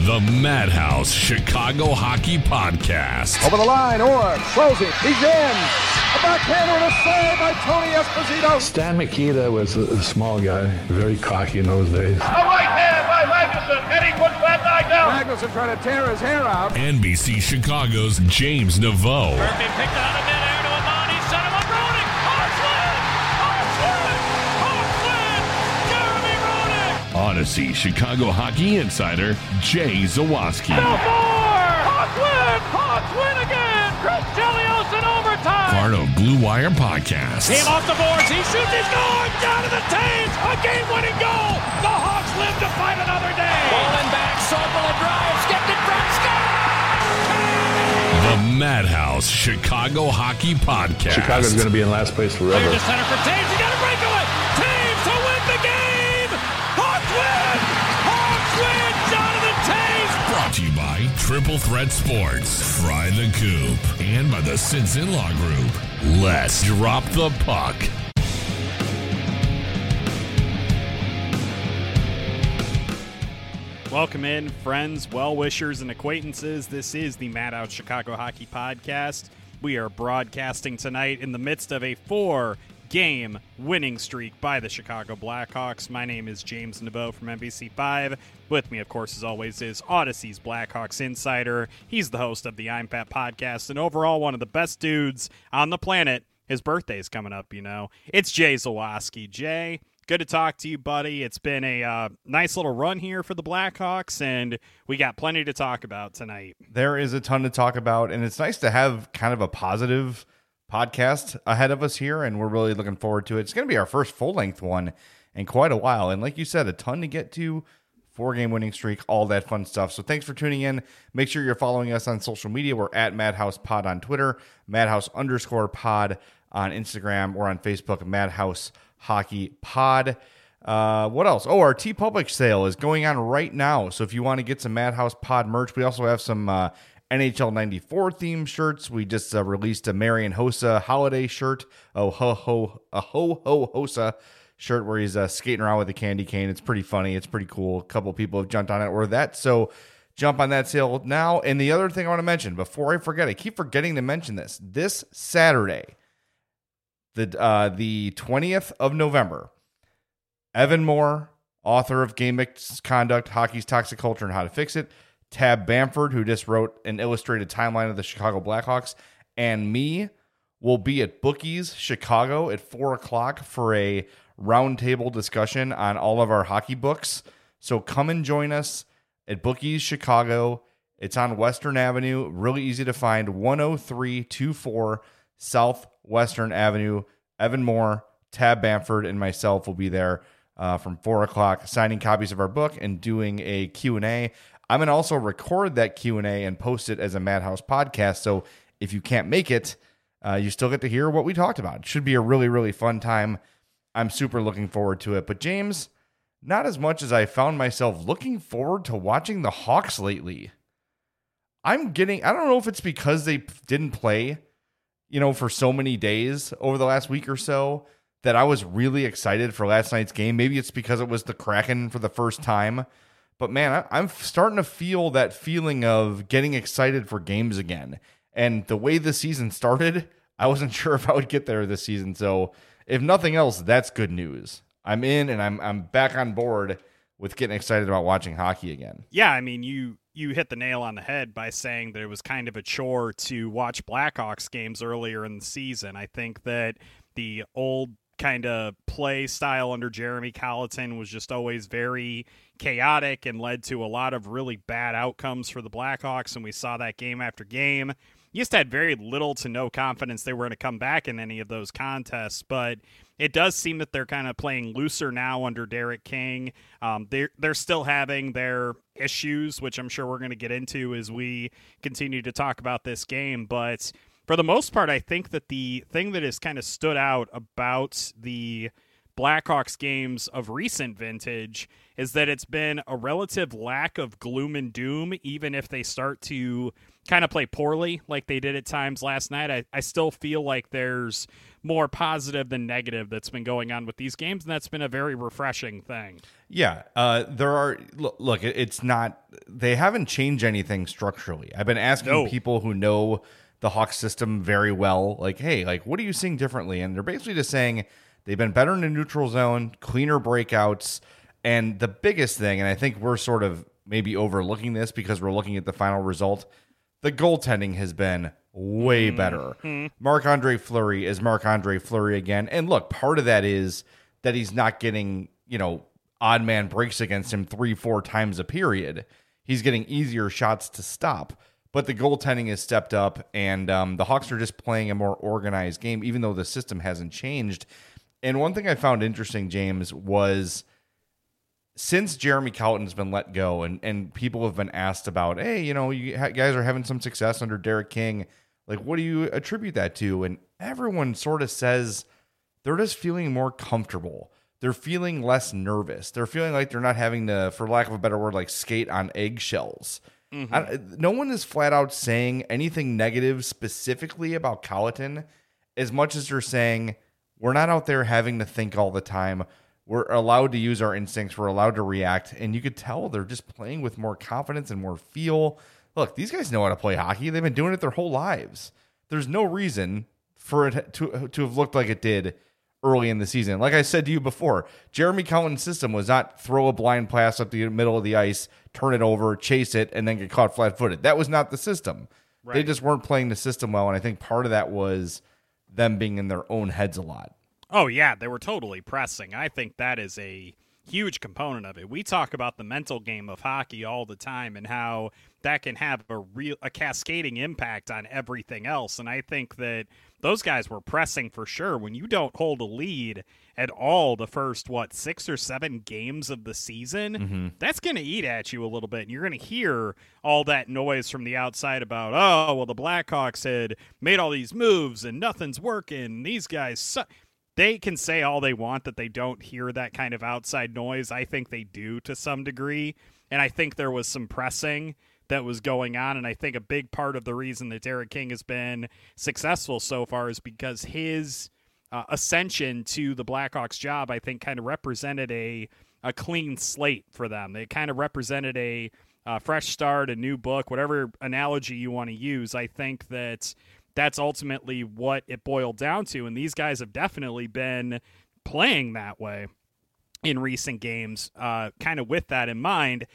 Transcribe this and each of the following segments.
The Madhouse Chicago Hockey Podcast. Over the line, Orr throws it. He's in. A backhander and a save by Tony Esposito. Stan Mikita was a small guy, very cocky in those days. A right hand by Magnuson, and he puts that guy down. Magnuson trying to tear his hair out. NBC Chicago's James Naveau. Murphy picked out of midair to Amani, set him up, Roenick. Hawks win! Jeremy Roenick! Odyssey Chicago Hockey Insider Jay Zawaski. No more! Hawks win again! Chris Chelios in overtime! Part of Blue Wire Podcast. Team off the boards, he shoots, he scores! Down to the Taves, a game-winning goal! The Hawks live to fight another day! Bowling back, Sobel a drive, skipped in front, score! The Madhouse Chicago Hockey Podcast. Chicago's going to be in last place forever. Clear to center for Taves, he got a breakaway! Taves to win the game! Hawks win! Hawks win! Jonathan Taves! Brought to you by Triple Threat Sports, Fry the Coop, and by the Sinson Law Group. Let's drop the puck. Welcome in, friends, well-wishers, and acquaintances. This is the Madhouse Chicago Hockey Podcast. We are broadcasting tonight in the midst of a 4-game winning streak by the Chicago Blackhawks. My name is James Naveau from NBC5. With me, of course, as always, is Odyssey's Blackhawks insider. He's the host of the I'm Pat podcast, and overall one of the best dudes on the planet. His birthday's coming up, you know. It's Jay Zawaski. Jay, good to talk to you, buddy. It's been a nice little run here for the Blackhawks, and we got plenty to talk about tonight. There is a ton to talk about, and it's nice to have kind of a positive podcast ahead of us here, and we're really looking forward to it. It's going to be our first full-length one in quite a while, and like you said, a ton to get to. 4-game winning streak, all that fun stuff. So thanks for tuning in. Make sure you're following us on social media. We're at Madhouse Pod on Twitter, Madhouse_pod on Instagram, or on Facebook, Madhouse Hockey Pod. What else? Oh, our TeePublic sale is going on right now. So if you want to get some Madhouse Pod merch, we also have some NHL 94 themed shirts. We just released a Marian Hossa holiday shirt. A ho Hossa shirt where he's skating around with a candy cane. It's pretty funny. It's pretty cool. A couple people have jumped on it or that. So jump on that sale now. And the other thing I want to mention before I forget, I keep forgetting to mention this Saturday, the 20th of November, Evan Moore, author of Game Misconduct, Hockey's Toxic Culture and How to Fix It, Tab Bamford, who just wrote an illustrated timeline of the Chicago Blackhawks, and me will be at Bookies Chicago at 4 o'clock for a roundtable discussion on all of our hockey books. So come and join us at Bookies Chicago. It's on Western Avenue, really easy to find, 10324 South Western Avenue. Evan Moore, Tab Bamford, and myself will be there from 4 o'clock, signing copies of our book and doing a Q&A. I'm going to also record that Q&A and post it as a Madhouse podcast. So if you can't make it, you still get to hear what we talked about. It should be a really, really fun time. I'm super looking forward to it. But James, not as much as I found myself looking forward to watching the Hawks lately. I don't know if it's because they didn't play, for so many days over the last week or so that I was really excited for last night's game. Maybe it's because it was the Kraken for the first time. But man, I'm starting to feel that feeling of getting excited for games again. And the way the season started, I wasn't sure if I would get there this season. So if nothing else, that's good news. I'm in and I'm back on board with getting excited about watching hockey again. Yeah, I mean, you hit the nail on the head by saying that it was kind of a chore to watch Blackhawks games earlier in the season. I think that the old kind of play style under Jeremy Colleton was just always very chaotic and led to a lot of really bad outcomes for the Blackhawks, and we saw that game after game. You just had very little to no confidence they were going to come back in any of those contests, but it does seem that they're kind of playing looser now under Derek King. They're still having their issues, which I'm sure we're going to get into as we continue to talk about this game, but for the most part, I think that the thing that has kind of stood out about the Blackhawks games of recent vintage is that it's been a relative lack of gloom and doom, even if they start to kind of play poorly like they did at times last night, I still feel like there's more positive than negative that's been going on with these games, and that's been a very refreshing thing. Yeah, there are. Look, it's not. They haven't changed anything structurally. I've been asking people who know the Hawks system very well, like, hey, like, what are you seeing differently? And they're basically just saying they've been better in the neutral zone, cleaner breakouts, and the biggest thing, and I think we're sort of maybe overlooking this because we're looking at the final result, the goaltending has been way better. Marc-Andre Fleury is Marc-Andre Fleury again. And look, part of that is that he's not getting, odd man breaks against him 3-4 times a period. He's getting easier shots to stop. But the goaltending has stepped up, and the Hawks are just playing a more organized game, even though the system hasn't changed. And one thing I found interesting, James, was since Jeremy Colliton's been let go, and people have been asked about, hey, you guys are having some success under Derek King. Like, what do you attribute that to? And everyone sort of says they're just feeling more comfortable. They're feeling less nervous. They're feeling like they're not having to, for lack of a better word, like skate on eggshells. No one is flat out saying anything negative specifically about Colliton, as much as they're saying we're not out there having to think all the time. We're allowed to use our instincts. We're allowed to react. And you could tell they're just playing with more confidence and more feel. Look, these guys know how to play hockey. They've been doing it their whole lives. There's no reason for it to have looked like it did early in the season. Like I said to you before, Jeremy Colliton's system was not throw a blind pass up the middle of the ice, turn it over, chase it, and then get caught flat-footed. That was not the system. Right. They just weren't playing the system well, and I think part of that was them being in their own heads a lot. Oh, yeah, they were totally pressing. I think that is a huge component of it. We talk about the mental game of hockey all the time and how that can have a cascading impact on everything else. And I think that those guys were pressing for sure. When you don't hold a lead at all the first, 6 or 7 games of the season, that's going to eat at you a little bit. And you're going to hear all that noise from the outside about, oh, well, the Blackhawks had made all these moves and nothing's working. These guys suck. They can say all they want that they don't hear that kind of outside noise. I think they do to some degree. And I think there was some pressing that was going on. And I think a big part of the reason that Derek King has been successful so far is because his ascension to the Blackhawks job, I think, kind of represented a clean slate for them. They kind of represented a fresh start, a new book, whatever analogy you want to use. I think that's ultimately what it boiled down to, and these guys have definitely been playing that way in recent games. Kind of with that in mind,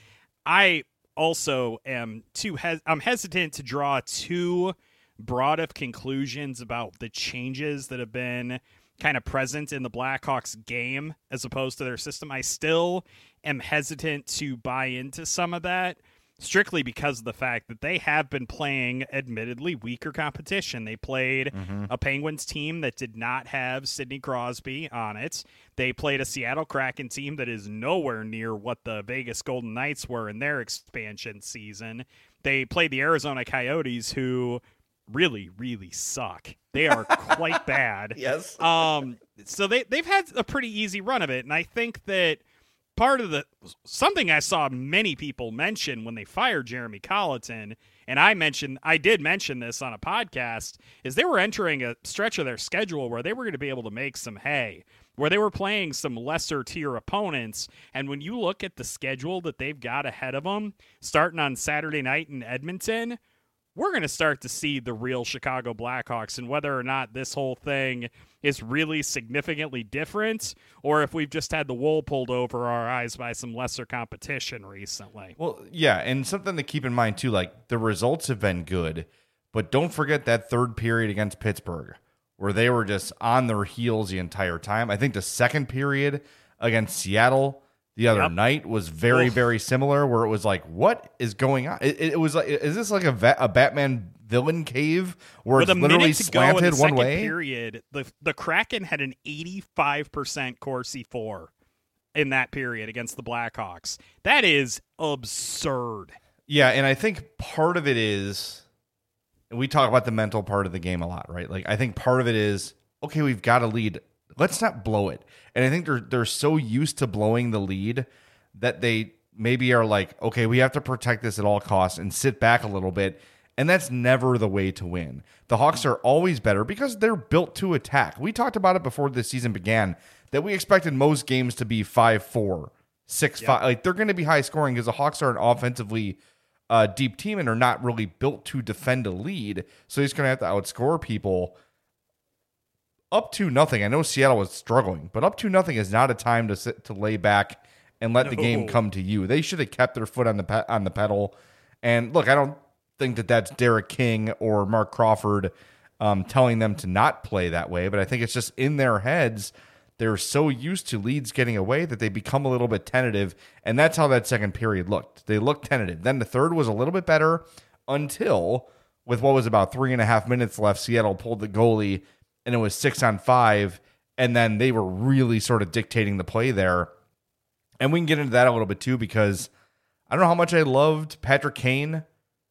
I also am I'm hesitant to draw too broad of conclusions about the changes that have been kind of present in the Blackhawks game as opposed to their system. I still am hesitant to buy into some of that, strictly because of the fact that they have been playing admittedly weaker competition. They played a Penguins team that did not have Sidney Crosby on it. They played a Seattle Kraken team that is nowhere near what the Vegas Golden Knights were in their expansion season. They played the Arizona Coyotes, who really, really suck. They are quite bad. Yes. So they've had a pretty easy run of it, and I think that part of something I saw many people mention when they fired Jeremy Colliton, and I did mention this on a podcast, is they were entering a stretch of their schedule where they were going to be able to make some hay, where they were playing some lesser tier opponents. And when you look at the schedule that they've got ahead of them, starting on Saturday night in Edmonton, we're going to start to see the real Chicago Blackhawks, and whether or not this whole thing is really significantly different or if we've just had the wool pulled over our eyes by some lesser competition recently. Well, yeah, and something to keep in mind, too, like the results have been good, but don't forget that third period against Pittsburgh where they were just on their heels the entire time. I think the second period against Seattle the other night was very, very similar, where it was like, what is going on? It was like, is this like a Batman villain cave where it's literally slanted one way? Period, the Kraken had an 85% Corsi 4 in that period against the Blackhawks. That is absurd. Yeah, and I think part of it is, we talk about the mental part of the game a lot, right? Like, I think part of it is, okay, we've got a lead. Let's not blow it. And I think they're so used to blowing the lead that they maybe are like, okay, we have to protect this at all costs and sit back a little bit And that's never the way to win. The Hawks are always better because they're built to attack. We talked about it before the season began that we expected most games to be 5-4, 6-5. Like they're going to be high scoring because the Hawks are an offensively deep team and are not really built to defend a lead. So he's going to have to outscore people. Up to nothing. I know Seattle was struggling, but up to nothing is not a time to sit to lay back and let the game come to you. They should have kept their foot on the pedal. And look, I don't think that that's Derek King or Mark Crawford telling them to not play that way, but I think it's just in their heads. They're so used to leads getting away that they become a little bit tentative, and that's how that second period looked. They looked tentative. Then the third was a little bit better until, with what was about 3.5 minutes left, Seattle pulled the goalie, and it was 6-on-5, and then they were really sort of dictating the play there. And we can get into that a little bit too, because I don't know how much I loved Patrick Kane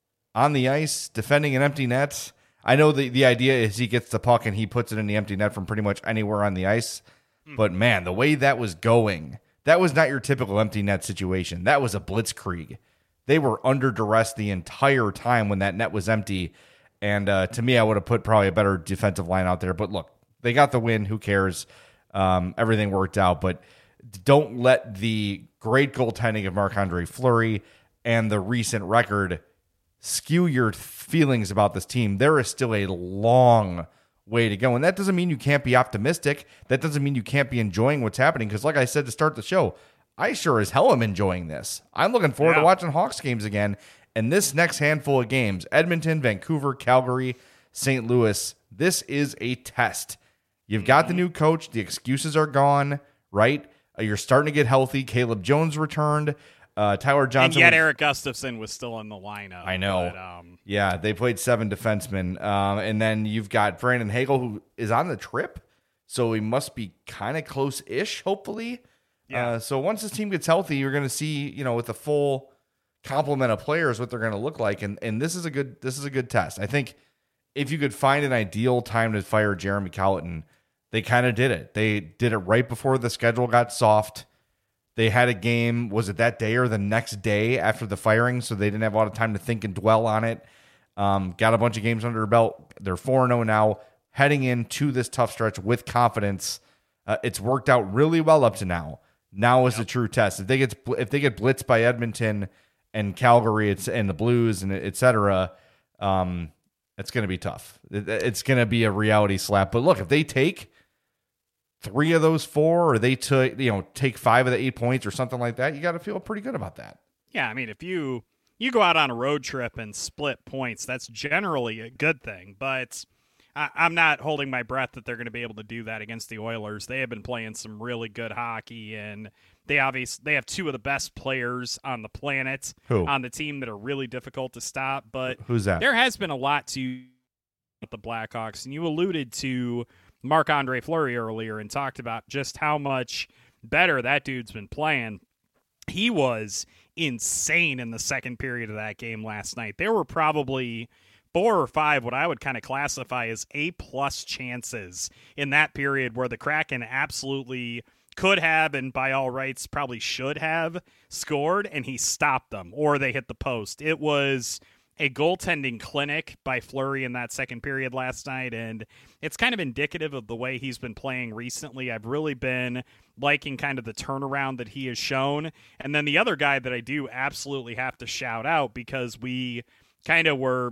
on the ice defending an empty net. I know the idea is he gets the puck and he puts it in the empty net from pretty much anywhere on the ice. But man, the way that was going, that was not your typical empty net situation. That was a blitzkrieg. They were under duress the entire time when that net was empty. And to me, I would have put probably a better defensive line out there. But look, they got the win. Who cares? Everything worked out. But don't let the great goaltending of Marc-Andre Fleury and the recent record skew your feelings about this team. There is still a long way to go. And that doesn't mean you can't be optimistic. That doesn't mean you can't be enjoying what's happening. Because like I said to start the show, I sure as hell am enjoying this. I'm looking forward to watching Hawks games again. And this next handful of games, Edmonton, Vancouver, Calgary, St. Louis, this is a test. You've got the new coach. The excuses are gone, right? You're starting to get healthy. Caleb Jones returned. Tyler Johnson. And yet Eric Gustafson was still in the lineup. I know. But, yeah, they played 7 defensemen. And then you've got Brandon Hagel, who is on the trip. So he must be kind of close-ish, hopefully. Yeah. So once this team gets healthy, you're going to see, with the full complement of players, what they're going to look like. And this is a good test. I think if you could find an ideal time to fire Jeremy Colliton, they kind of did it. They did it right before the schedule got soft. They had a game, was it that day or the next day after the firing, so they didn't have a lot of time to think and dwell on it. Got a bunch of games under their belt. They're 4-0 now, heading into this tough stretch with confidence. It's worked out really well up to now. Now is the true test. If they get blitzed by Edmonton and Calgary and the Blues and et cetera, it's going to be tough. It's going to be a reality slap. But look, if they take 3 of those 4, or they take 5 of the 8 points or something like that, you got to feel pretty good about that. Yeah, I mean, if you go out on a road trip and split points, that's generally a good thing. But I'm not holding my breath that they're going to be able to do that against the Oilers. They have been playing some really good hockey, and they have 2 of the best players on the planet on the team that are really difficult to stop. But who's that? There has been a lot to with the Blackhawks, and you alluded to Marc-Andre Fleury earlier and talked about just how much better that dude's been playing. He was insane in the second period of that game last night. There were probably 4 or 5 what I would kind of classify as A-plus chances in that period where the Kraken absolutely could have, and by all rights probably should have, scored, and he stopped them, or they hit the post. It was a goaltending clinic by Fleury in that second period last night, and it's kind of indicative of the way he's been playing recently. I've really been liking kind of the turnaround that he has shown. And then the other guy that I do absolutely have to shout out, because you were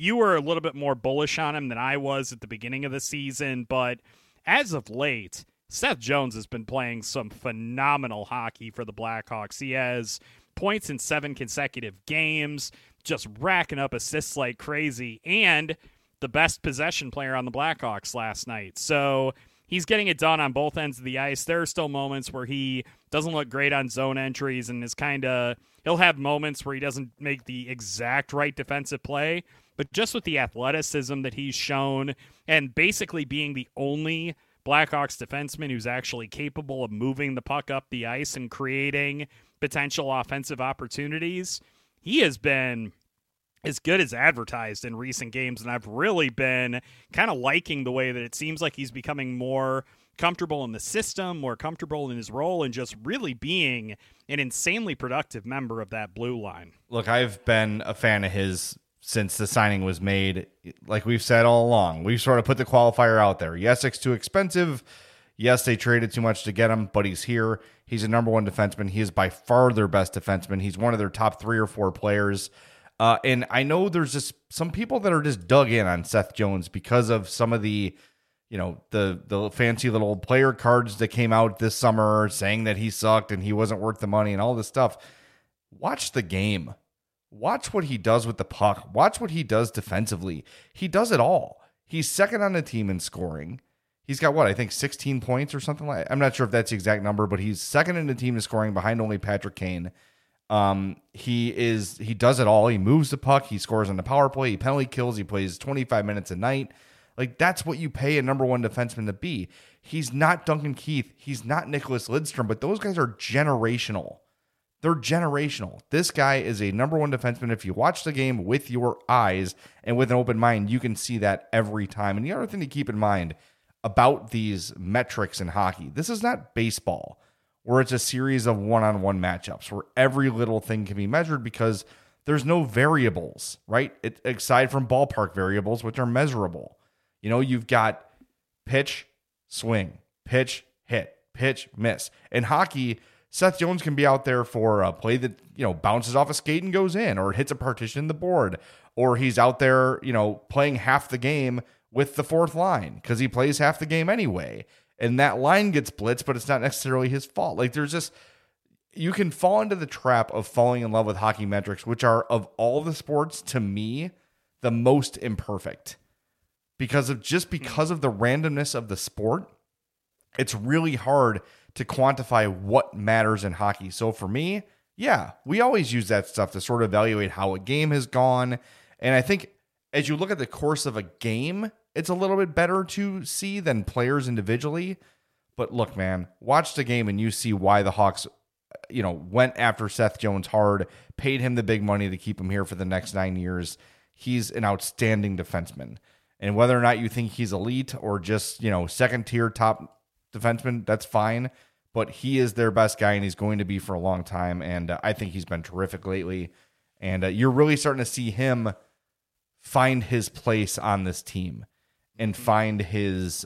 a little bit more bullish on him than I was at the beginning of the season, but as of late, Seth Jones has been playing some phenomenal hockey for the Blackhawks. He has points in 7 consecutive games, just racking up assists like crazy, and the best possession player on the Blackhawks last night. So he's getting it done on both ends of the ice. There are still moments where he doesn't look great on zone entries and he'll have moments where he doesn't make the exact right defensive play, but just with the athleticism that he's shown and basically being the only Blackhawks defenseman who's actually capable of moving the puck up the ice and creating potential offensive opportunities, he has been as good as advertised in recent games, and I've really been kind of liking the way that it seems like he's becoming more comfortable in the system, more comfortable in his role, and just really being an insanely productive member of that blue line. Look, I've been a fan of his since the signing was made. Like we've said all along, we've sort of put the qualifier out there. Yes, it's too expensive. Yes, they traded too much to get him, but he's here. He's a number one defenseman. He is by far their best defenseman. He's one of their top 3 or 4 players. And I know there's just some people that are just dug in on Seth Jones because of some of the, the fancy little player cards that came out this summer saying that he sucked and he wasn't worth the money and all this stuff. Watch the game. Watch what he does with the puck. Watch what he does defensively. He does it all. He's second on the team in scoring. He's got I think 16 points or something like that. I'm not sure if that's the exact number, but he's second in the team in scoring behind only Patrick Kane. He does it all. He moves the puck. He scores on the power play. He penalty kills. He plays 25 minutes a night. Like that's what you pay a number one defenseman to be. He's not Duncan Keith. He's not Nicholas Lidstrom, but those guys are generational. They're generational. This guy is a number one defenseman. If you watch the game with your eyes and with an open mind, you can see that every time. And the other thing to keep in mind about these metrics in hockey, this is not baseball where it's a series of one-on-one matchups where every little thing can be measured because there's no variables, right? Aside from ballpark variables, which are measurable. You've got pitch, swing, pitch, hit, pitch, miss. In hockey, Seth Jones can be out there for a play that, bounces off a skate and goes in, or it hits a partition in the board, or he's out there, playing half the game with the fourth line because he plays half the game anyway. And that line gets blitzed, but it's not necessarily his fault. Like you can fall into the trap of falling in love with hockey metrics, which are of all the sports to me, the most imperfect because of the randomness of the sport. It's really hard to quantify what matters in hockey. So for me, yeah, we always use that stuff to sort of evaluate how a game has gone. And I think as you look at the course of a game, it's a little bit better to see than players individually. But look, man, watch the game and you see why the Hawks, went after Seth Jones hard, paid him the big money to keep him here for the next 9 years. He's an outstanding defenseman. And whether or not you think he's elite or just, second tier top defenseman, that's fine. But he is their best guy and he's going to be for a long time. And I think he's been terrific lately. And you're really starting to see him find his place on this team and find his,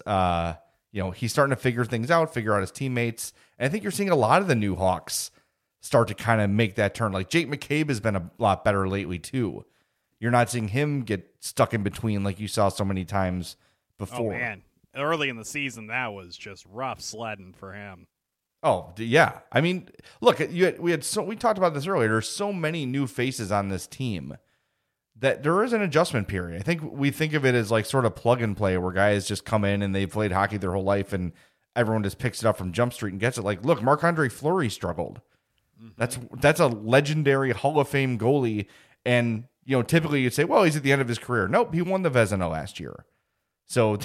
he's starting to figure things out, figure out his teammates. And I think you're seeing a lot of the new Hawks start to kind of make that turn. Like Jake McCabe has been a lot better lately too. You're not seeing him get stuck in between like you saw so many times before. Oh, man. Early in the season, that was just rough sledding for him. Oh, yeah. I mean, look, we talked about this earlier. There's so many new faces on this team that there is an adjustment period. I think we think of it as like sort of plug and play where guys just come in and they've played hockey their whole life and everyone just picks it up from Jump Street and gets it. Like, look, Marc-Andre Fleury struggled. Mm-hmm. That's a legendary Hall of Fame goalie. And, typically you'd say, well, he's at the end of his career. Nope, he won the Vezina last year. So,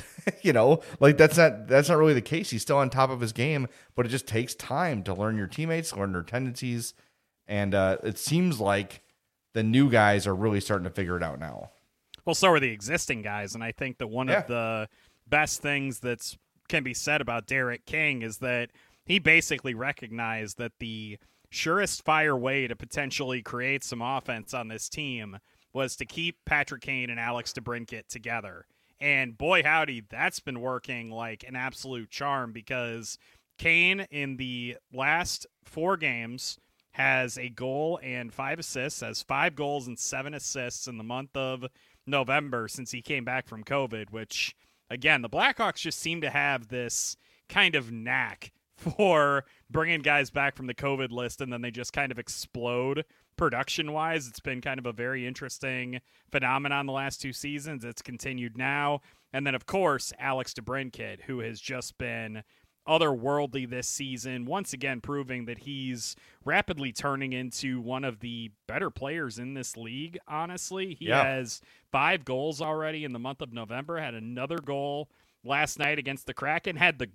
that's not really the case. He's still on top of his game, but it just takes time to learn your teammates, learn their tendencies. And it seems like the new guys are really starting to figure it out now. Well, so are the existing guys. And I think that one of the best things that can be said about Derek King is that he basically recognized that the surest fire way to potentially create some offense on this team was to keep Patrick Kane and Alex DeBrincat together. And boy, howdy, that's been working like an absolute charm because Kane in the last 4 games has a goal and 5 assists, has 5 goals and 7 assists in the month of November since he came back from COVID, which, again, the Blackhawks just seem to have this kind of knack for bringing guys back from the COVID list, and then they just kind of explode production-wise. It's been kind of a very interesting phenomenon the last 2 seasons. It's continued now. And then, of course, Alex DeBrincat, who has just been otherworldly this season, once again proving that he's rapidly turning into one of the better players in this league, honestly. He has 5 goals already in the month of November, had another goal last night against the Kraken,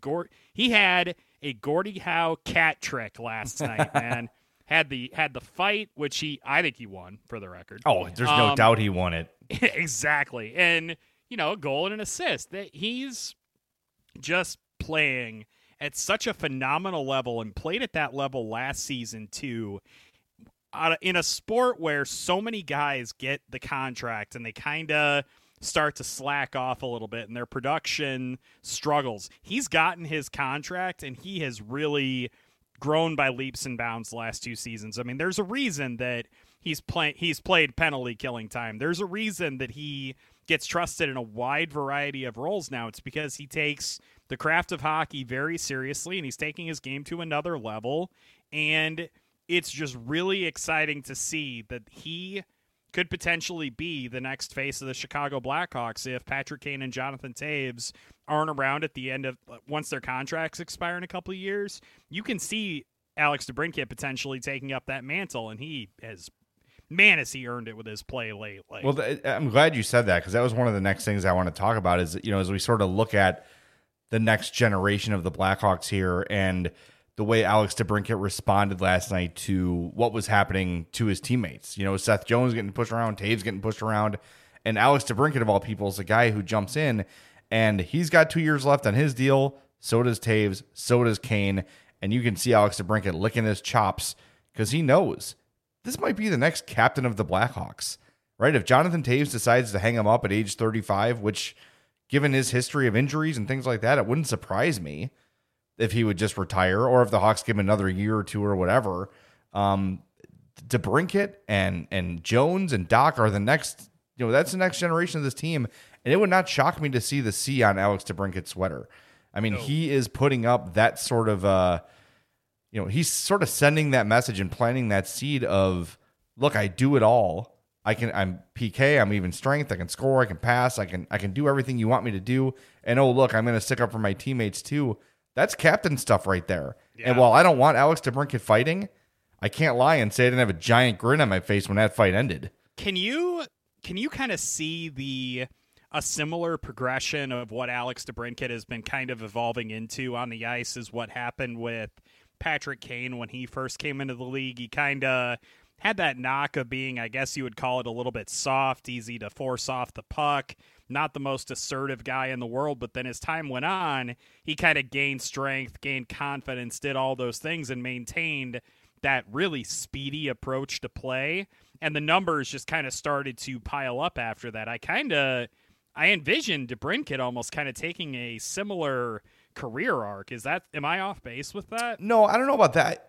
he had a Gordie Howe cat trick last night, man. Had the fight, which I think he won, for the record. Oh, there's no doubt he won it. Exactly. And, a goal and an assist. That he's just playing at such a phenomenal level and played at that level last season too. in a sport where so many guys get the contract and they kind of start to slack off a little bit and their production struggles, he's gotten his contract and he has really grown by leaps and bounds the last 2 seasons. I mean, there's a reason that he's played penalty killing time. There's a reason that he gets trusted in a wide variety of roles now. It's because he takes the craft of hockey very seriously and he's taking his game to another level. And it's just really exciting to see that he could potentially be the next face of the Chicago Blackhawks if Patrick Kane and Jonathan Toews aren't around at the end of once their contracts expire in a couple of years. You can see Alex DeBrincat potentially taking up that mantle, and he has, man, has he earned it with his play lately. Well, I'm glad you said that, because that was one of the next things I want to talk about is, as we sort of look at the next generation of the Blackhawks here and the way Alex DeBrincat responded last night to what was happening to his teammates. Seth Jones getting pushed around, Toews getting pushed around, and Alex DeBrincat, of all people, is the guy who jumps in, and he's got 2 years left on his deal. So does Toews, so does Kane, and you can see Alex DeBrincat licking his chops because he knows this might be the next captain of the Blackhawks, right? If Jonathan Toews decides to hang him up at age 35, which, given his history of injuries and things like that, it wouldn't surprise me if he would just retire, or if the Hawks give him another year or two or whatever. DeBrincat and Jones and Doc are the next, that's the next generation of this team. And it would not shock me to see the C on Alex DeBrincat's sweater. I mean, He is putting up that sort of, he's sort of sending that message and planting that seed of, look, I do it all. I'm PK, I'm even strength, I can score, I can pass, I can do everything you want me to do. And oh, look, I'm going to stick up for my teammates too. That's captain stuff right there. Yeah. And while I don't want Alex DeBrincat fighting, I can't lie and say I didn't have a giant grin on my face when that fight ended. Can you kind of see a similar progression of what Alex DeBrincat has been kind of evolving into on the ice is what happened with Patrick Kane when he first came into the league? He kind of had that knock of being, I guess you would call it, a little bit soft, easy to force off the puck, not the most assertive guy in the world. But then as time went on, he kind of gained strength, gained confidence, did all those things, and maintained that really speedy approach to play. And the numbers just kind of started to pile up after that. I envisioned DeBrincat almost kind of taking a similar career arc. Am I off base with that? No, I don't know about that.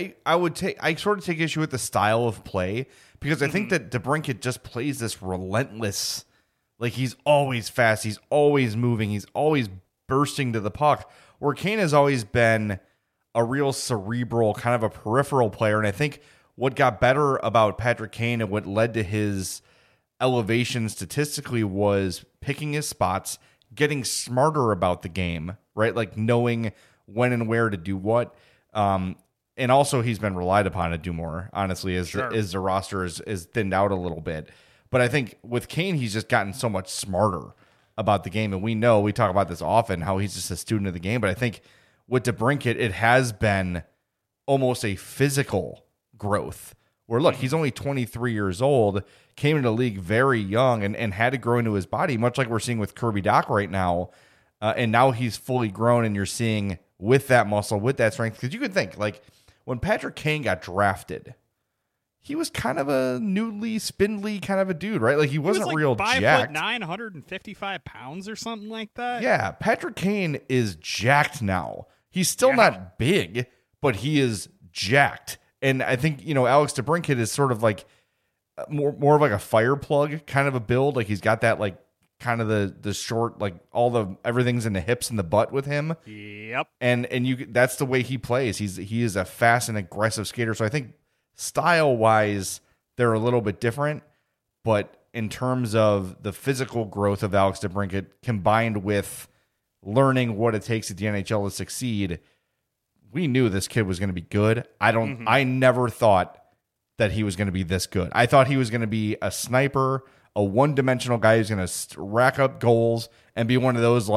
I sort of take issue with the style of play, because I think that DeBrincat just plays this relentless, like he's always fast, he's always moving, he's always bursting to the puck, where Kane has always been a real cerebral, kind of a peripheral player. And I think what got better about Patrick Kane and what led to his elevation statistically was picking his spots, getting smarter about the game, right? Like knowing when and where to do what. And also he's been relied upon to do more, honestly, as the roster is thinned out a little bit. But I think with Kane, he's just gotten so much smarter about the game. And we talk about this often, how he's just a student of the game. But I think with DeBrincat, it has been almost a physical growth where, look, he's only 23 years old, came into the league very young and had to grow into his body, much like we're seeing with Kirby Dach right now. And now he's fully grown, and you're seeing with that muscle, with that strength. Because you could think, like, when Patrick Kane got drafted, he was kind of a noodly, spindly kind of a dude, right? Like, he wasn't like real 5'9", jacked. 155 pounds or something like that. Yeah, Patrick Kane is jacked now. He's still not big, but he is jacked. And I think, Alex DeBrincat is sort of like more of like a fire plug kind of a build. Like he's got that like kind of the short, like everything's in the hips and the butt with him. Yep. And that's the way he plays. He is a fast and aggressive skater. So I think style wise, they're a little bit different, but in terms of the physical growth of Alex DeBrincat combined with learning what it takes at the NHL to succeed, we knew this kid was going to be good. I never thought that he was going to be this good. I thought he was going to be a sniper, a one-dimensional guy who's going to rack up goals and be one of those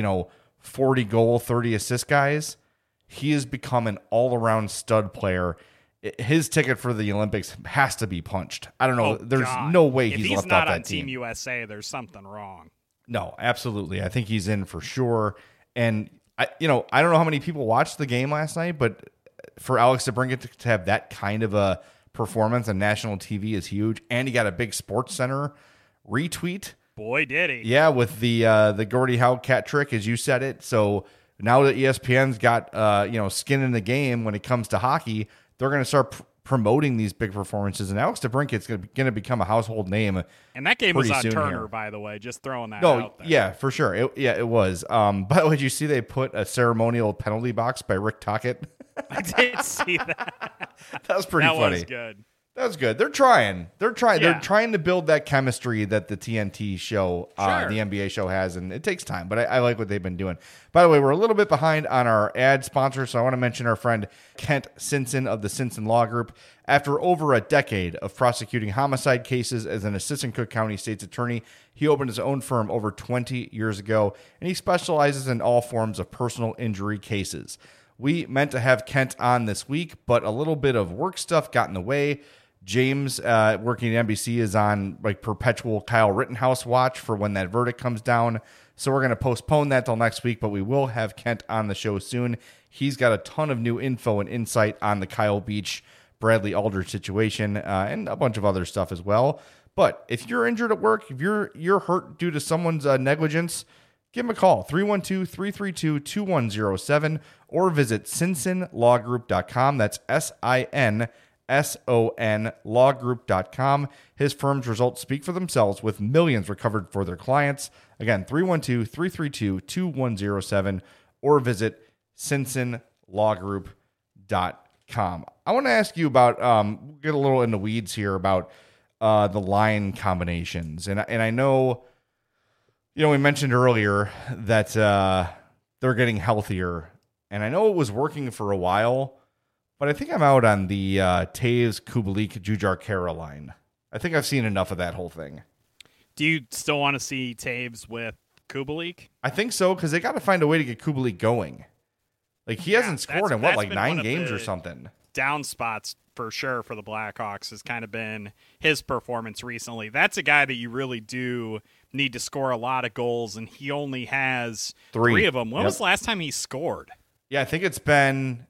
40 goal, 30 assist guys. He has become an all-around stud player. His ticket for the Olympics has to be punched. I don't know. There's no way he's left off that team. If he's not on Team USA, there's something wrong. No, absolutely. I think he's in for sure. And I don't know how many people watched the game last night, but for Alex DeBrincat to have that kind of a performance on national TV is huge. And he got a big Sports Center retweet. Boy, did he. Yeah, with the Gordie Howe cat trick, as you said it. So now that ESPN's got skin in the game when it comes to hockey, they're going to start promoting these big performances. And Alex DeBrincat's going to become a household name. And that game was on Turner, here. by the way. Just throwing that out there. Yeah, for sure. It was. By the way, did you see they put a ceremonial penalty box by Rick Tocchet? I did see that. That was pretty funny. That was good. That was good. They're trying. Yeah. They're trying to build that chemistry that the TNT show, Sure. the NBA show has, and it takes time. But I like what they've been doing. By the way, we're a little bit behind on our ad sponsor, so I want to mention our friend Kent Sinson of the Sinson Law Group. After over a decade of prosecuting homicide cases as an assistant Cook County State's attorney, he opened his own firm over 20 years ago, and he specializes in all forms of personal injury cases. We meant to have Kent on this week, but a little bit of work stuff got in the way. James, working at NBC, is on like perpetual Kyle Rittenhouse watch for when that verdict comes down. So we're going to postpone that till next week, but we will have Kent on the show soon. He's got a ton of new info and insight on the Kyle Beach, Bradley Aldridge situation, and a bunch of other stuff as well. But if you're injured at work, if you're hurt due to someone's negligence, give him a call, 312-332-2107, or visit sinsonlawgroup.com. That's SINSON lawgroup.com. His firm's results speak for themselves with millions recovered for their clients. Again, 312-332-2107 or visit sinsonlawgroup.com. I want to ask you about, we'll get a little in the weeds here about the line combinations. And I know, we mentioned earlier that they're getting healthier. And I know it was working for a while, but I think I'm out on the Toews, Kubalik, Jujhar Khaira line. I think I've seen enough of that whole thing. Do you still want to see Toews with Kubalik? I think so, because they got to find a way to get Kubalik going. Like, he hasn't scored in, 9 games or something? Down spots, for sure, for the Blackhawks has kind of been his performance recently. That's a guy that you really do need to score a lot of goals, and he only has 3 of them. When was the last time he scored? Yeah, I think it's been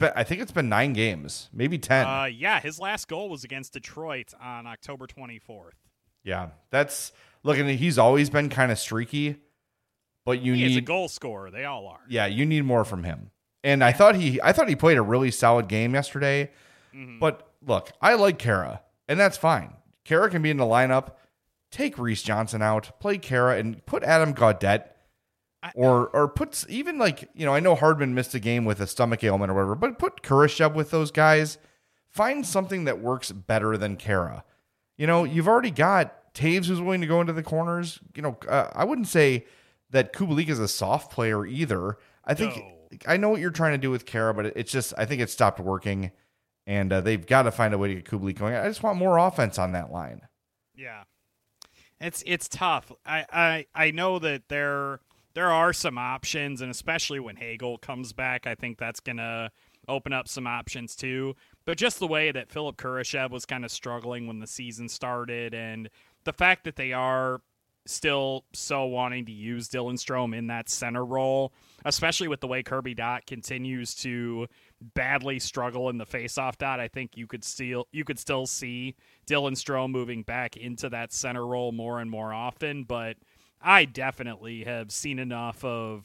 9 games, maybe 10. His last goal was against Detroit on October 24th. Yeah, he's always been kind of streaky, but He's a goal scorer. They all are. Yeah, you need more from him. And I thought he played a really solid game yesterday. Mm-hmm. But look, I like Khaira, and that's fine. Khaira can be in the lineup. Take Reese Johnson out, play Khaira, and put Adam Gaudette. Or put even I know Hardman missed a game with a stomach ailment or whatever, but put Kurashev with those guys. Find something that works better than Khaira. You've already got Toews who's willing to go into the corners. I wouldn't say that Kubalik is a soft player either. I think I know what you're trying to do with Khaira, but it's just I think it stopped working, and they've got to find a way to get Kubalik going. I just want more offense on that line. Yeah, it's tough. I know that there are some options, and especially when Hagel comes back, I think that's going to open up some options too. But just the way that Philip Kurashev was kind of struggling when the season started, and the fact that they are still so wanting to use Dylan Strome in that center role, especially with the way Kirby Dach continues to badly struggle in the faceoff dot, I think you could still see Dylan Strome moving back into that center role more and more often. But I definitely have seen enough of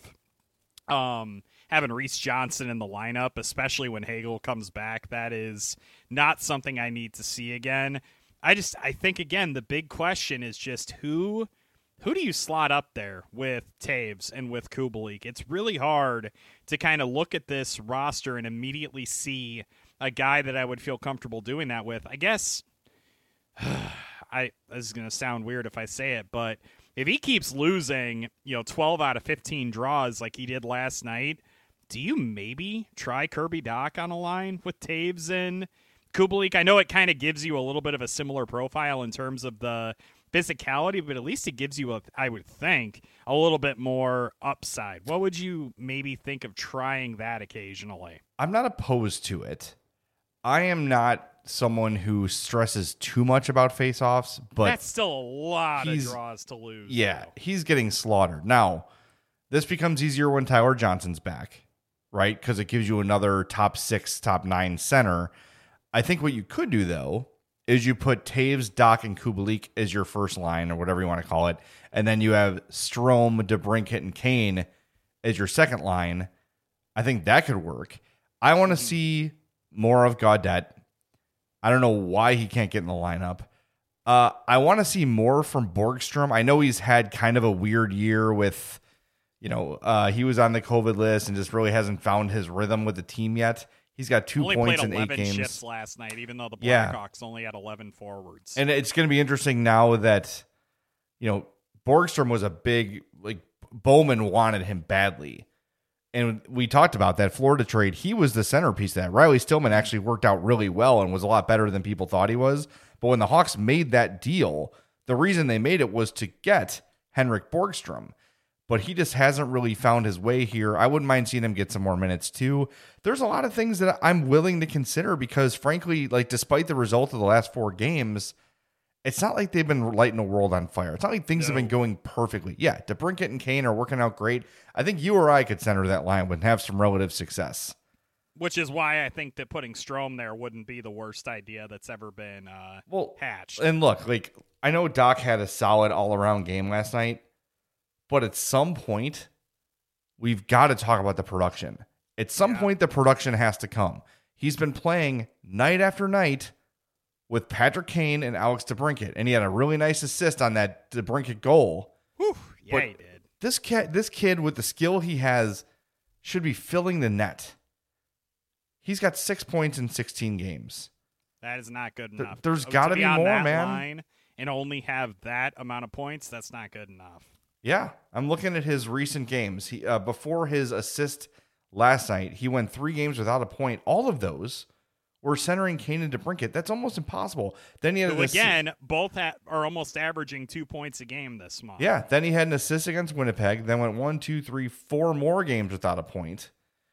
having Reese Johnson in the lineup, especially when Hagel comes back. That is not something I need to see again. I think, again, the big question is just who do you slot up there with Toews and with Kubalik? It's really hard to kind of look at this roster and immediately see a guy that I would feel comfortable doing that with. I guess this is going to sound weird if I say it, but if he keeps losing, 12 out of 15 draws like he did last night, do you maybe try Kirby Dach on a line with Toews and Kubalik? I know it kind of gives you a little bit of a similar profile in terms of the physicality, but at least it gives you, I would think, a little bit more upside. What would you maybe think of trying that occasionally? I'm not opposed to it. I am not someone who stresses too much about face-offs, but that's still a lot of draws to lose. Yeah, though. He's getting slaughtered. Now, this becomes easier when Tyler Johnson's back, right? Because it gives you another top 6, top 9 center. I think what you could do, though, is you put Taves, Doc, and Kubalik as your first line, or whatever you want to call it, and then you have Strome, DeBrincat, and Kane as your second line. I think that could work. I want to see more of Gaudette. I don't know why he can't get in the lineup. I want to see more from Borgstrom. I know he's had kind of a weird year with, he was on the COVID list and just really hasn't found his rhythm with the team yet. He's got 2 points in 8 games. Shifts last night, even though the Blackhawks only had 11 forwards. And it's going to be interesting now that, Borgstrom was a big, Bowman wanted him badly. And we talked about that Florida trade. He was the centerpiece of that. Riley Stillman actually worked out really well and was a lot better than people thought he was. But when the Hawks made that deal, the reason they made it was to get Henrik Borgstrom. But he just hasn't really found his way here. I wouldn't mind seeing him get some more minutes too. There's a lot of things that I'm willing to consider because, frankly, despite the result of the last 4 games, it's not like they've been lighting the world on fire. It's not like things have been going perfectly. Yeah, DeBrincat and Kane are working out great. I think you or I could center that line and have some relative success. Which is why I think that putting Strome there wouldn't be the worst idea that's ever been hatched. And look, I know Doc had a solid all-around game last night, but at some point, we've got to talk about the production. At some point, the production has to come. He's been playing night after night with Patrick Kane and Alex DeBrincat, and he had a really nice assist on that DeBrincat goal. Whew, yeah, he did. This kid, with the skill he has, should be filling the net. He's got 6 points in 16 games. That is not good enough. There's got to be more, man. Line and only have that amount of points, that's not good enough. Yeah, I'm looking at his recent games. He before his assist last night, he went 3 games without a point. All of those were centering Kane and DeBrincat. That's almost impossible. Then he had both are almost averaging 2 points a game this month. Yeah, then he had an assist against Winnipeg. Then went 1, 2, 3, 4 more games without a point.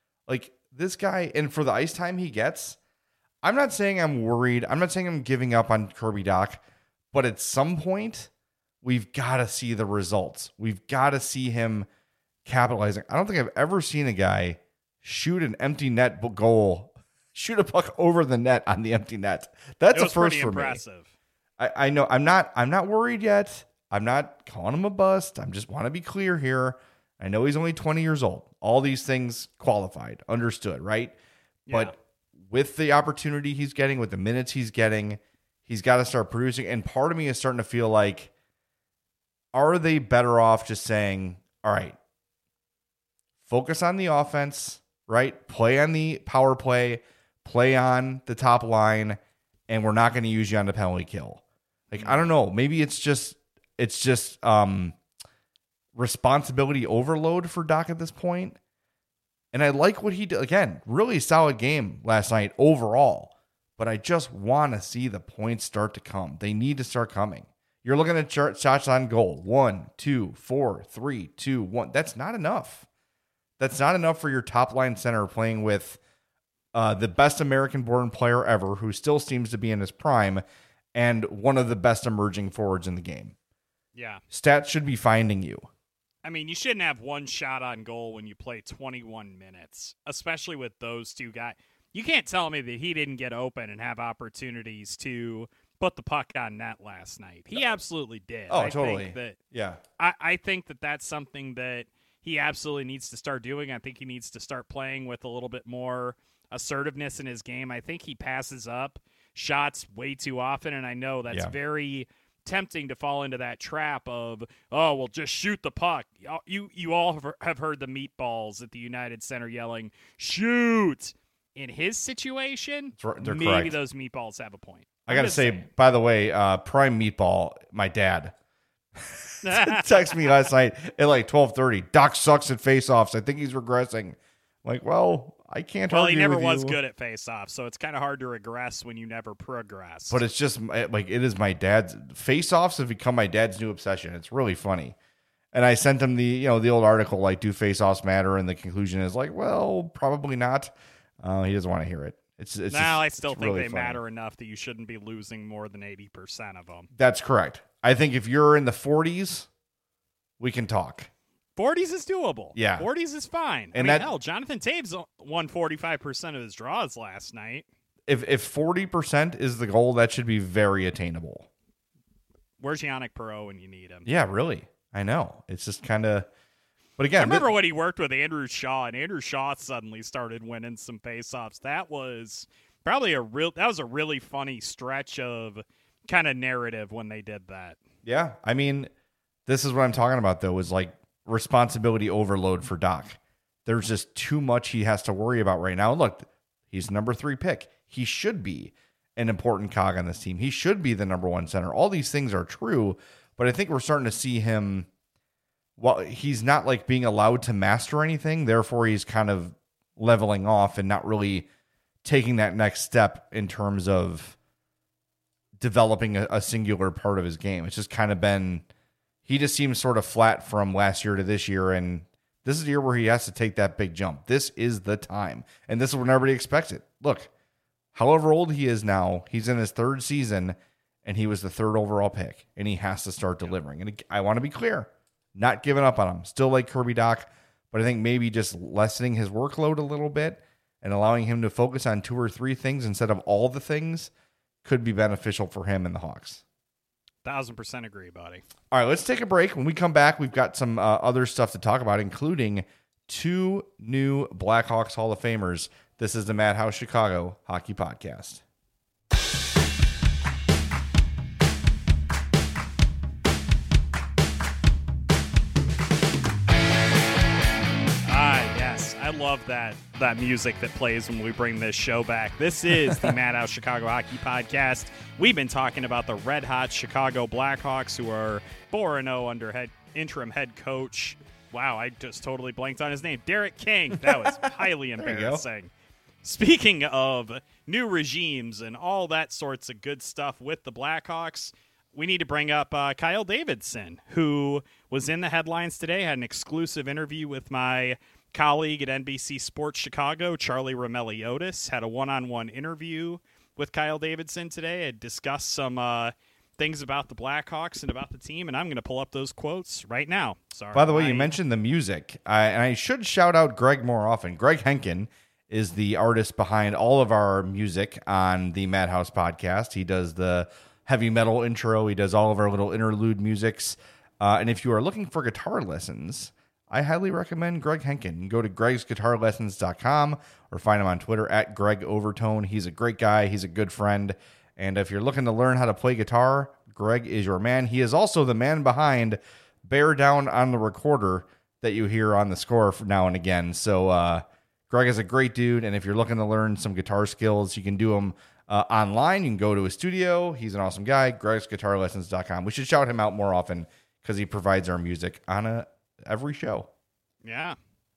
This guy, and for the ice time he gets, I'm not saying I'm worried. I'm not saying I'm giving up on Kirby Dach, but at some point, we've got to see the results. We've got to see him capitalizing. I don't think I've ever seen a guy shoot an empty net goal, shoot a puck over the net on the empty net. That's a first for impressive. Me. I know I'm not worried yet. I'm not calling him a bust. I just want to be clear here. I know he's only 20 years old. All these things qualified, understood, right? Yeah. But with the opportunity he's getting, with the minutes he's getting, he's got to start producing. And part of me is starting to feel like, are they better off just saying, all right, focus on the offense, right? Play on the power play, play on the top line, and we're not going to use you on the penalty kill. I don't know. Maybe it's just responsibility overload for Doc at this point. And I like what he did. Again, really solid game last night overall. But I just want to see the points start to come. They need to start coming. You're looking at shots on goal. 1, 2, 4, 3, 2, 1. That's not enough. That's not enough for your top line center playing with the best American-born player ever, who still seems to be in his prime, and one of the best emerging forwards in the game. Yeah. Stats should be finding you. I mean, you shouldn't have one shot on goal when you play 21 minutes, especially with those two guys. You can't tell me that he didn't get open and have opportunities to put the puck on net last night. He absolutely did. Oh, totally. I think that that's something that he absolutely needs to start doing. I think he needs to start playing with a little bit more assertiveness in his game. I think he passes up shots way too often, and I know that's very tempting to fall into that trap of, oh, well, just shoot the puck. You all have heard the meatballs at the United Center yelling, shoot. In his situation, they're maybe correct. Those meatballs have a point. I got to say, by the way, prime meatball, my dad texted me last night at 12:30. Doc sucks at faceoffs. I think he's regressing. Well, I can't argue he never with was you. good at faceoffs, so it's kind of hard to regress when you never progress. But it's just it is my dad's faceoffs have become my dad's new obsession. It's really funny. And I sent him the old article do faceoffs matter, and the conclusion is well, probably not. He doesn't want to hear it. I still think really they funny. matter enough that you shouldn't be losing more than 80% of them. That's correct. I think if you're in the 40s, we can talk. 40s is doable. Yeah. 40s is fine. And hell, Jonathan Toews won 45% of his draws last night. if 40% is the goal, that should be very attainable. Where's Yannick Perreault when you need him? Yeah, really. I know. It's just kind of. But again, I remember when he worked with Andrew Shaw, and Andrew Shaw suddenly started winning some faceoffs. That was probably a really funny stretch of kind of narrative when they did that. Yeah, I mean, this is what I'm talking about, though, is like responsibility overload for Doc. There's just too much he has to worry about right now. Look, he's number 3 pick. He should be an important cog on this team. He should be the number 1 center. All these things are true, but I think we're starting to see him. Well, he's not like being allowed to master anything. Therefore, he's kind of leveling off and not really taking that next step in terms of developing a singular part of his game. It's just kind of been, he just seems sort of flat from last year to this year. And this is the year where he has to take that big jump. This is the time. And this is when everybody expects it. Look, however old he is now, he's in his 3rd season and he was the 3rd overall pick and he has to start delivering. And I want to be clear, not giving up on him. Still like Kirby Doc, but I think maybe just lessening his workload a little bit and allowing him to focus on 2 or 3 things instead of all the things could be beneficial for him and the Hawks. 1,000% agree, buddy. All right, let's take a break. When we come back, we've got some other stuff to talk about, including 2 new Blackhawks Hall of Famers. This is the Madhouse Chicago Hockey Podcast. I love that music that plays when we bring this show back. This is the Madhouse Chicago Hockey Podcast. We've been talking about the red-hot Chicago Blackhawks, who are 4-0 under interim head coach. Wow, I just totally blanked on his name. Derek King. That was highly embarrassing. Speaking of new regimes and all that sorts of good stuff with the Blackhawks, we need to bring up Kyle Davidson, who was in the headlines today, had an exclusive interview with my colleague at NBC Sports Chicago, Charlie Roumeliotis, had a one-on-one interview with Kyle Davidson today. I discussed some things about the Blackhawks and about the team, and I'm going to pull up those quotes right now. Sorry. By the way, you mentioned the music, and I should shout out Greg more often. Greg Henkin is the artist behind all of our music on the Madhouse Podcast. He does the heavy metal intro. He does all of our little interlude musics. And if you are looking for guitar lessons, I highly recommend Greg Henkin. Go to gregsguitarlessons.com or find him on Twitter at Greg Overtone. He's a great guy. He's a good friend. And if you're looking to learn how to play guitar, Greg is your man. He is also the man behind Bear Down on the Recorder that you hear on the score now and again. So Greg is a great dude. And if you're looking to learn some guitar skills, you can do them online. You can go to his studio. He's an awesome guy. gregsguitarlessons.com. We should shout him out more often because he provides our music on every show. Yeah.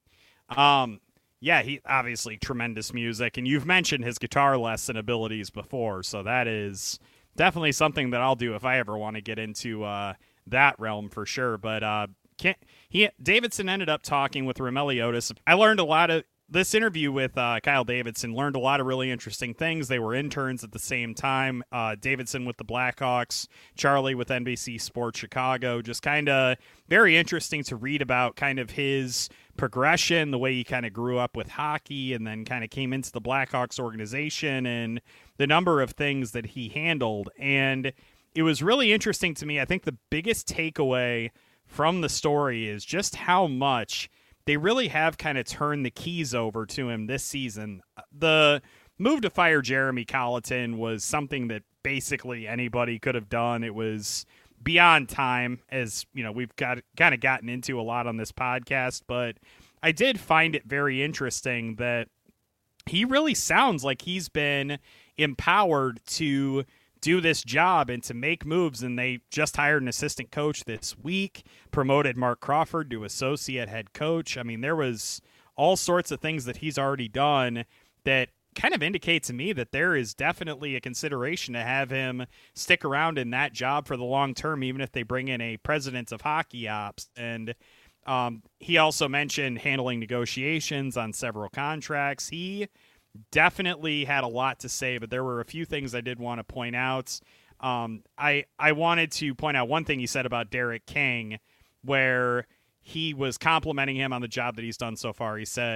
He obviously tremendous music, and you've mentioned his guitar lesson abilities before, so that is definitely something that I'll do if I ever want to get into that realm for sure. But Davidson ended up talking with Roumeliotis. I learned a lot of this interview with Kyle Davidson, learned a lot of really interesting things. They were interns at the same time. Davidson with the Blackhawks, Charlie with NBC Sports Chicago. Just kind of very interesting to read about kind of his progression, the way he kind of grew up with hockey and then kind of came into the Blackhawks organization and the number of things that he handled. And it was really interesting to me. I think the biggest takeaway from the story is just how much they really have kind of turned the keys over to him this season. The move to fire Jeremy Colleton was something that basically anybody could have done. It was beyond time, as you know, we've got kind of gotten into a lot on this podcast, but I did find it very interesting that he really sounds like he's been empowered to do this job and to make moves, and they just hired an assistant coach this week, promoted Mark Crawford to associate head coach. I mean, there was all sorts of things that he's already done that kind of indicate to me that there is definitely a consideration to have him stick around in that job for the long term, even if they bring in a president of hockey ops. And he also mentioned handling negotiations on several contracts. He definitely had a lot to say, but there were a few things I did want to point out. I wanted to point out one thing he said about Derek King, where he was complimenting him on the job that he's done so far. He said,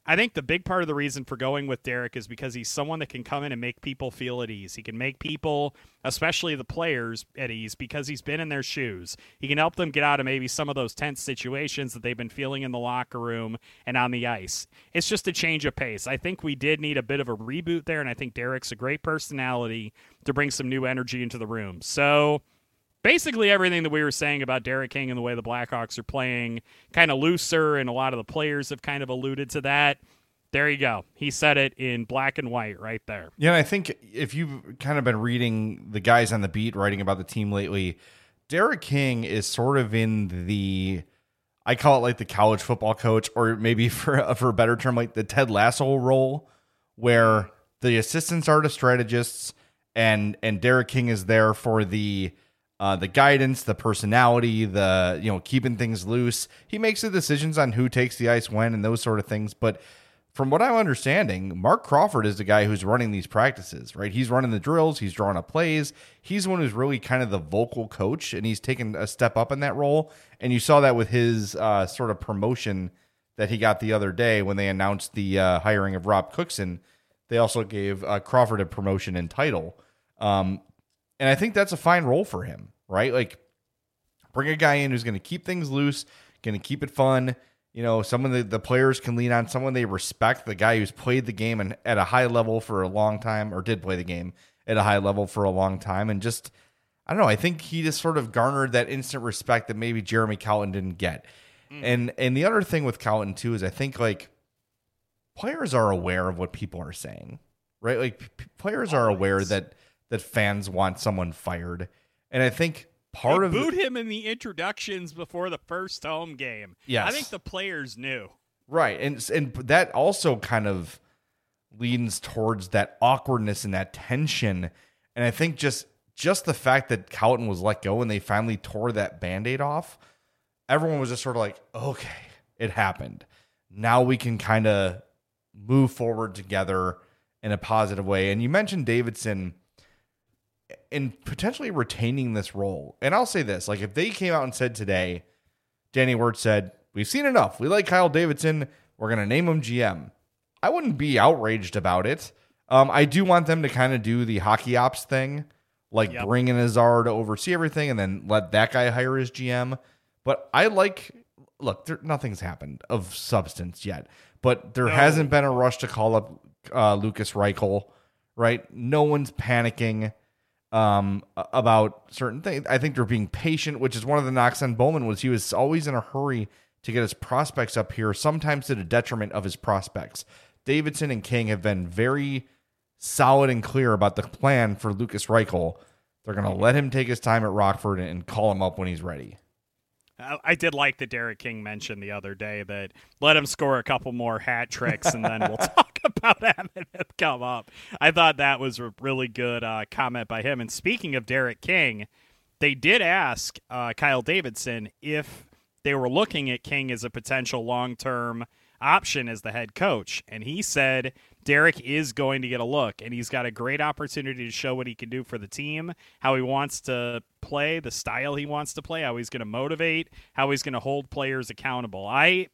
I think the big part of the reason for going with Derek is because he's someone that can come in and make people feel at ease. He can make people, especially the players, at ease because he's been in their shoes. He can help them get out of maybe some of those tense situations that they've been feeling in the locker room and on the ice. It's just a change of pace. I think we did need a bit of a reboot there, and I think Derek's a great personality to bring some new energy into the room. So basically everything that we were saying about Derek King and the way the Blackhawks are playing kind of looser, and a lot of the players have kind of alluded to that. There you go. He said it in black and white right there. Yeah, and I think if you've kind of been reading the guys on the beat writing about the team lately, Derek King is sort of in the, I call it like the college football coach, or maybe for a better term, like the Ted Lasso role, where the assistants are the strategists and Derek King is there for the guidance, the personality, the, keeping things loose. He makes the decisions on who takes the ice when and those sort of things. But from what I'm understanding, Mark Crawford is the guy who's running these practices, right? He's running the drills. He's drawing up plays. He's the one who's really kind of the vocal coach, and he's taken a step up in that role. And you saw that with his sort of promotion that he got the other day when they announced the hiring of Rob Cookson. They also gave Crawford a promotion in title. And I think that's a fine role for him, right? Like, bring a guy in who's going to keep things loose, going to keep it fun. Someone the players can lean on, someone they respect, the guy who's played the game and at a high level for a long time, or did play the game at a high level for a long time. And just, I don't know, I think he just sort of garnered that instant respect that maybe Jeremy Colliton didn't get. And the other thing with Colliton too is I think like players are aware of what people are saying, right? Like players are aware that fans want someone fired. And I think they booed him in the introductions before the first home game. Yes. I think the players knew. Right. And that also kind of leans towards that awkwardness and that tension. And I think just the fact that Colliton was let go and they finally tore that Band-Aid off, everyone was just sort of like, okay, it happened. Now we can kind of move forward together in a positive way. And you mentioned Davidson in potentially retaining this role. And I'll say this, like if they came out and said today, Danny Wirtz said, we've seen enough. We like Kyle Davidson. We're going to name him GM. I wouldn't be outraged about it. I do want them to kind of do the hockey ops thing, like bring in Azar to oversee everything and then let that guy hire his GM. But nothing's happened of substance yet, but there hasn't been a rush to call up Lucas Reichel, right? No one's panicking about certain things. I think they're being patient, which is one of the knocks on Bowman was he was always in a hurry to get his prospects up here, sometimes to the detriment of his prospects. Davidson and King have been very solid and clear about the plan for Lucas Reichel. They're going to let him take his time at Rockford and call him up when he's ready. I did like that Derek King mentioned the other day that let him score a couple more hat tricks and then we'll talk about him and him come up. I thought that was a really good comment by him. And speaking of Derek King, they did ask Kyle Davidson if they were looking at King as a potential long-term option as the head coach. And he said Derek is going to get a look, and he's got a great opportunity to show what he can do for the team, how he wants to play, the style he wants to play, how he's going to motivate, how he's going to hold players accountable. I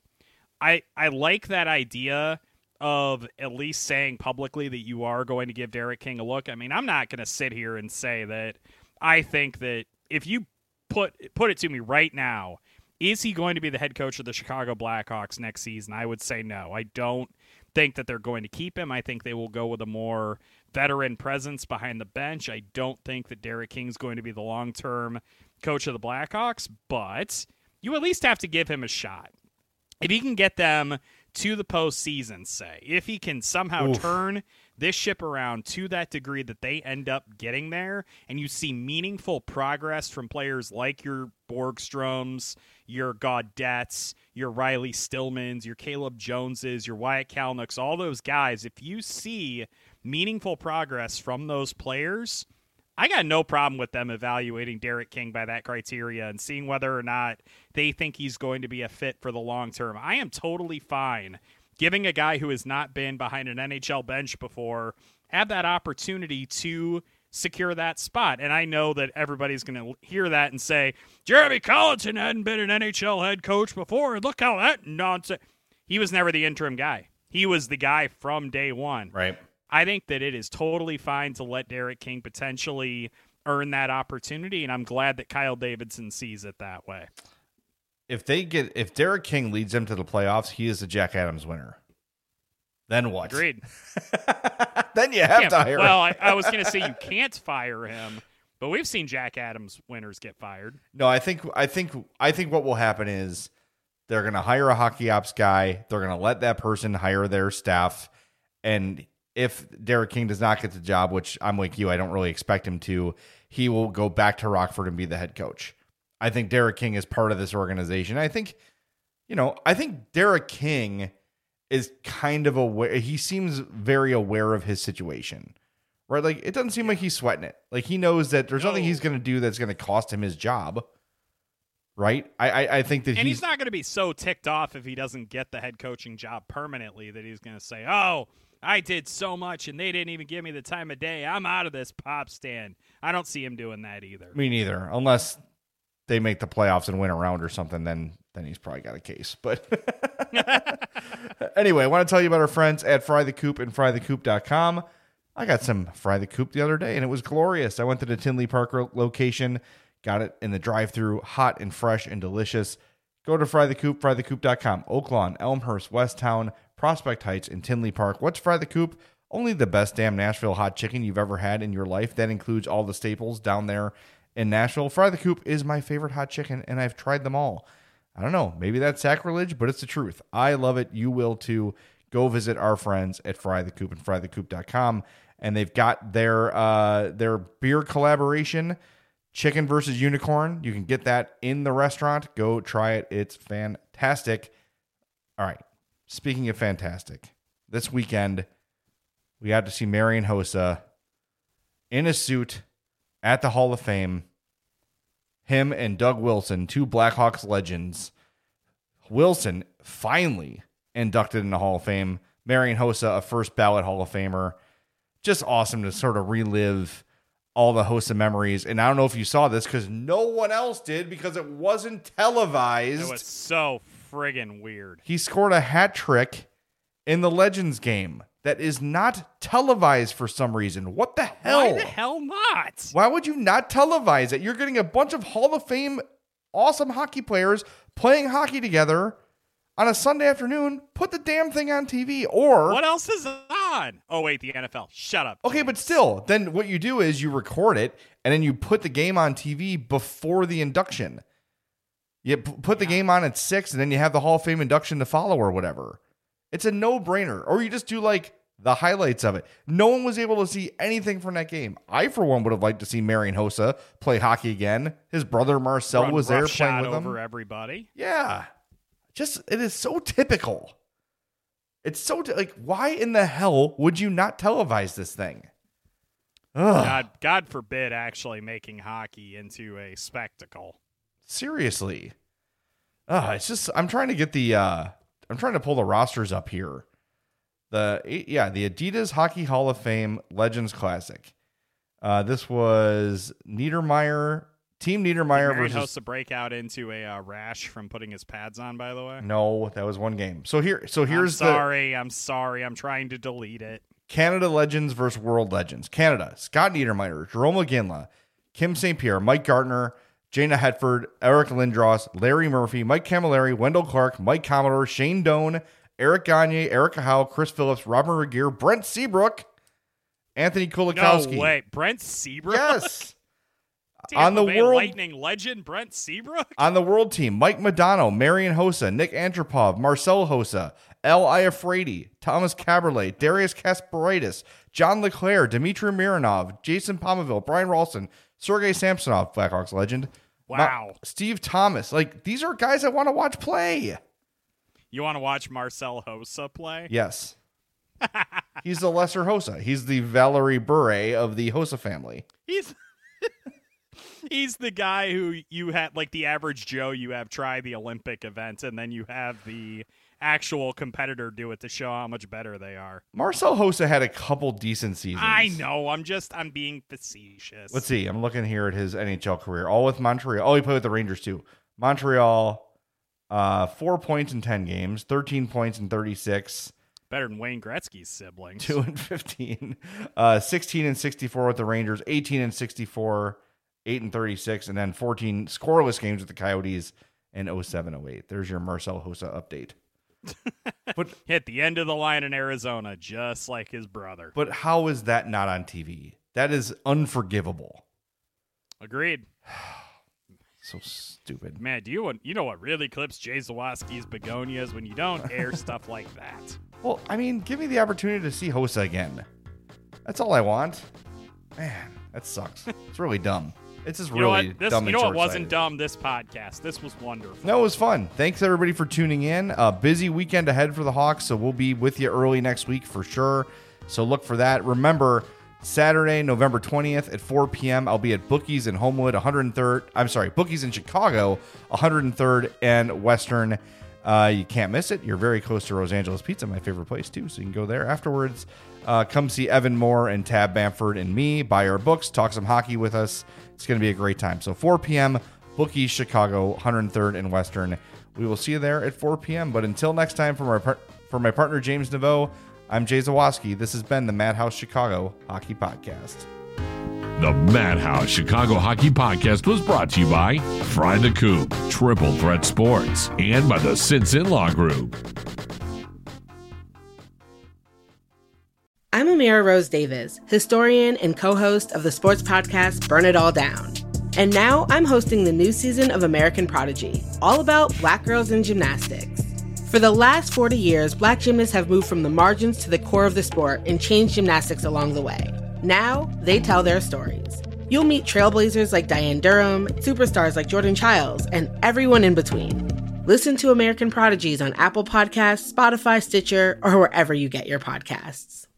like that idea of at least saying publicly that you are going to give Derek King a look. I mean, I'm not going to sit here and say that I think that if you put it to me right now, is he going to be the head coach of the Chicago Blackhawks next season? I would say no. I don't think that they're going to keep him. I think they will go with a more veteran presence behind the bench. I don't think that Derek King's going to be the long-term coach of the Blackhawks, but you at least have to give him a shot. If he can get them to the postseason, say, if he can somehow turn this ship around to that degree that they end up getting there, and you see meaningful progress from players like your Borgstroms, your Gaudets, your Riley Stillmans, your Caleb Joneses, your Wyatt Kalynuk's, all those guys, if you see meaningful progress from those players, I got no problem with them evaluating Derek King by that criteria and seeing whether or not they think he's going to be a fit for the long term. I am totally fine giving a guy who has not been behind an NHL bench before have that opportunity to secure that spot. And I know that everybody's going to hear that and say, Jeremy Colliton hadn't been an NHL head coach before. Look how that nonsense. He was never the interim guy. He was the guy from day one. Right. I think that it is totally fine to let Derek King potentially earn that opportunity, and I'm glad that Kyle Davidson sees it that way. If Derek King leads them to the playoffs, he is the Jack Adams winner. Then what? Agreed. Then you have to hire him. Well, I was going to say you can't fire him, but we've seen Jack Adams winners get fired. No, I think what will happen is they're going to hire a hockey ops guy. They're going to let that person hire their staff. And if Derek King does not get the job, which I'm like you, I don't really expect him to, he will go back to Rockford and be the head coach. I think Derek King is part of this organization. I think Derek King is kind of aware. He seems very aware of his situation, right? Like, it doesn't seem like he's sweating it. Like, he knows that there's nothing he's going to do that's going to cost him his job. Right. I think that he's not going to be so ticked off if he doesn't get the head coaching job permanently that he's going to say, "Oh, I did so much and they didn't even give me the time of day. I'm out of this pop stand." I don't see him doing that either. Me neither. Unless they make the playoffs and win a round or something, then he's probably got a case. But anyway, I want to tell you about our friends at Fry the Coop and frythecoop.com. I got some Fry the Coop the other day, and it was glorious. I went to the Tinley Park location, got it in the drive-thru, hot and fresh and delicious. Go to Fry the Coop, frythecoop.com. Oak Lawn, Elmhurst, Westtown, Prospect Heights, and Tinley Park. What's Fry the Coop? Only the best damn Nashville hot chicken you've ever had in your life. That includes all the staples down there in Nashville. Fry the Coop is my favorite hot chicken, and I've tried them all. I don't know, maybe that's sacrilege, but it's the truth. I love it. You will too. Go visit our friends at Fry the Coop and frythecoop.com, and they've got their beer collaboration, Chicken versus Unicorn. You can get that in the restaurant. Go try it. It's fantastic. All right. Speaking of fantastic, this weekend we got to see Marian Hossa in a suit at the Hall of Fame. Him and Doug Wilson, two Blackhawks legends. Wilson finally inducted in the Hall of Fame. Marian Hossa, a first ballot Hall of Famer. Just awesome to sort of relive all the Hossa memories. And I don't know if you saw this because no one else did because it wasn't televised. It was so friggin' weird. He scored a hat trick in the Legends game that is not televised for some reason. What the hell? Why the hell not? Why would you not televise it? You're getting a bunch of Hall of Fame awesome hockey players playing hockey together on a Sunday afternoon. Put the damn thing on TV. Or what else is on? Oh, wait, the NFL. Shut up. Okay, but still, then what you do is you record it, and then you put the game on TV before the induction. You put the game on at 6, and then you have the Hall of Fame induction to follow or whatever. It's a no-brainer. Or you just do, like, the highlights of it. No one was able to see anything from that game. I, for one, would have liked to see Marian Hossa play hockey again. His brother Marcel was there playing with him. Over everybody. Yeah. It is so typical. It's so, why in the hell would you not televise this thing? God forbid actually making hockey into a spectacle. Seriously. It's just, I'm trying to pull the rosters up here. The Adidas Hockey Hall of Fame Legends Classic. This was Niedermeyer, Team Niedermeyer versus... Hossa break out into a rash from putting his pads on, by the way? No, that was one game. So here's I'm sorry. I'm trying to delete it. Canada Legends versus World Legends. Canada, Scott Niedermeyer, Jerome McGinley, Kim St. Pierre, Mike Gartner, Jana Hetford, Eric Lindros, Larry Murphy, Mike Camilleri, Wendell Clark, Mike Commodore, Shane Doan, Eric Gagne, Erica Howe, Chris Phillips, Robin Regier, Brent Seabrook, Anthony Kulikowski. No way. Brent Seabrook? Yes. On the World Lightning legend Brent Seabrook? On the World team, Mike Modano, Marian Hossa, Nick Antropov, Marcel Hossa, L. Iafrate, Thomas Caberlet, Darius Kasparaitis, John Leclerc, Dmitry Mironov, Jason Pominville, Brian Ralston, Sergei Samsonov, Blackhawks legend. Wow. Steve Thomas. These are guys I want to watch play. You want to watch Marcel Hossa play? Yes. He's the lesser Hossa. He's the Valerie Bure of the Hossa family. He's the guy who you had, like the average Joe, you have try the Olympic event, and then you have the actual competitor do it to show how much better they are. Marcel Hossa had a couple decent seasons. I know. I'm being facetious. Let's see. I'm looking here at his NHL career. All with Montreal. Oh, he played with the Rangers too. Montreal, 4 points in 10 games, 13 points in 36. better than Wayne Gretzky's siblings. 2-15, 16-64 with the Rangers, 18-64, 8-36, and then 14 scoreless games with the Coyotes in 07-08. There's your Marcel Hossa update. But hit the end of the line in Arizona, just like his brother. But how is that not on TV? That is unforgivable. Agreed. So stupid. Man, you know what really clips Jay Zawaski's begonias? When you don't air stuff like that. Well, I mean, give me the opportunity to see Hossa again. That's all I want. Man, that sucks. It's really dumb. It's just really dumb. You know what wasn't dumb, this podcast. This was wonderful. No, it was fun. Thanks, everybody, for tuning in. A busy weekend ahead for the Hawks, so we'll be with you early next week for sure. So look for that. Remember, Saturday, November 20th at 4 p.m., I'll be at Bookies in Homewood, Bookies in Chicago, 103rd and Western. You can't miss it. You're very close to Rose Angeles Pizza, my favorite place, too, so you can go there afterwards. Come see Evan Moore and Tab Bamford and me, buy our books, talk some hockey with us. It's going to be a great time. So 4 p.m., Bookies, Chicago, 103rd and Western. We will see you there at 4 p.m. But until next time, for my partner, James Naveau, I'm Jay Zawaski. This has been the Madhouse Chicago Hockey Podcast. The Madhouse Chicago Hockey Podcast was brought to you by Fry the Coop, Triple Threat Sports, and by the Since In-Law Group. I'm Amira Rose Davis, historian and co-host of the sports podcast Burn It All Down. And now I'm hosting the new season of American Prodigy, all about Black girls in gymnastics. For the last 40 years, Black gymnasts have moved from the margins to the core of the sport and changed gymnastics along the way. Now, they tell their stories. You'll meet trailblazers like Diane Durham, superstars like Jordan Childs, and everyone in between. Listen to American Prodigies on Apple Podcasts, Spotify, Stitcher, or wherever you get your podcasts.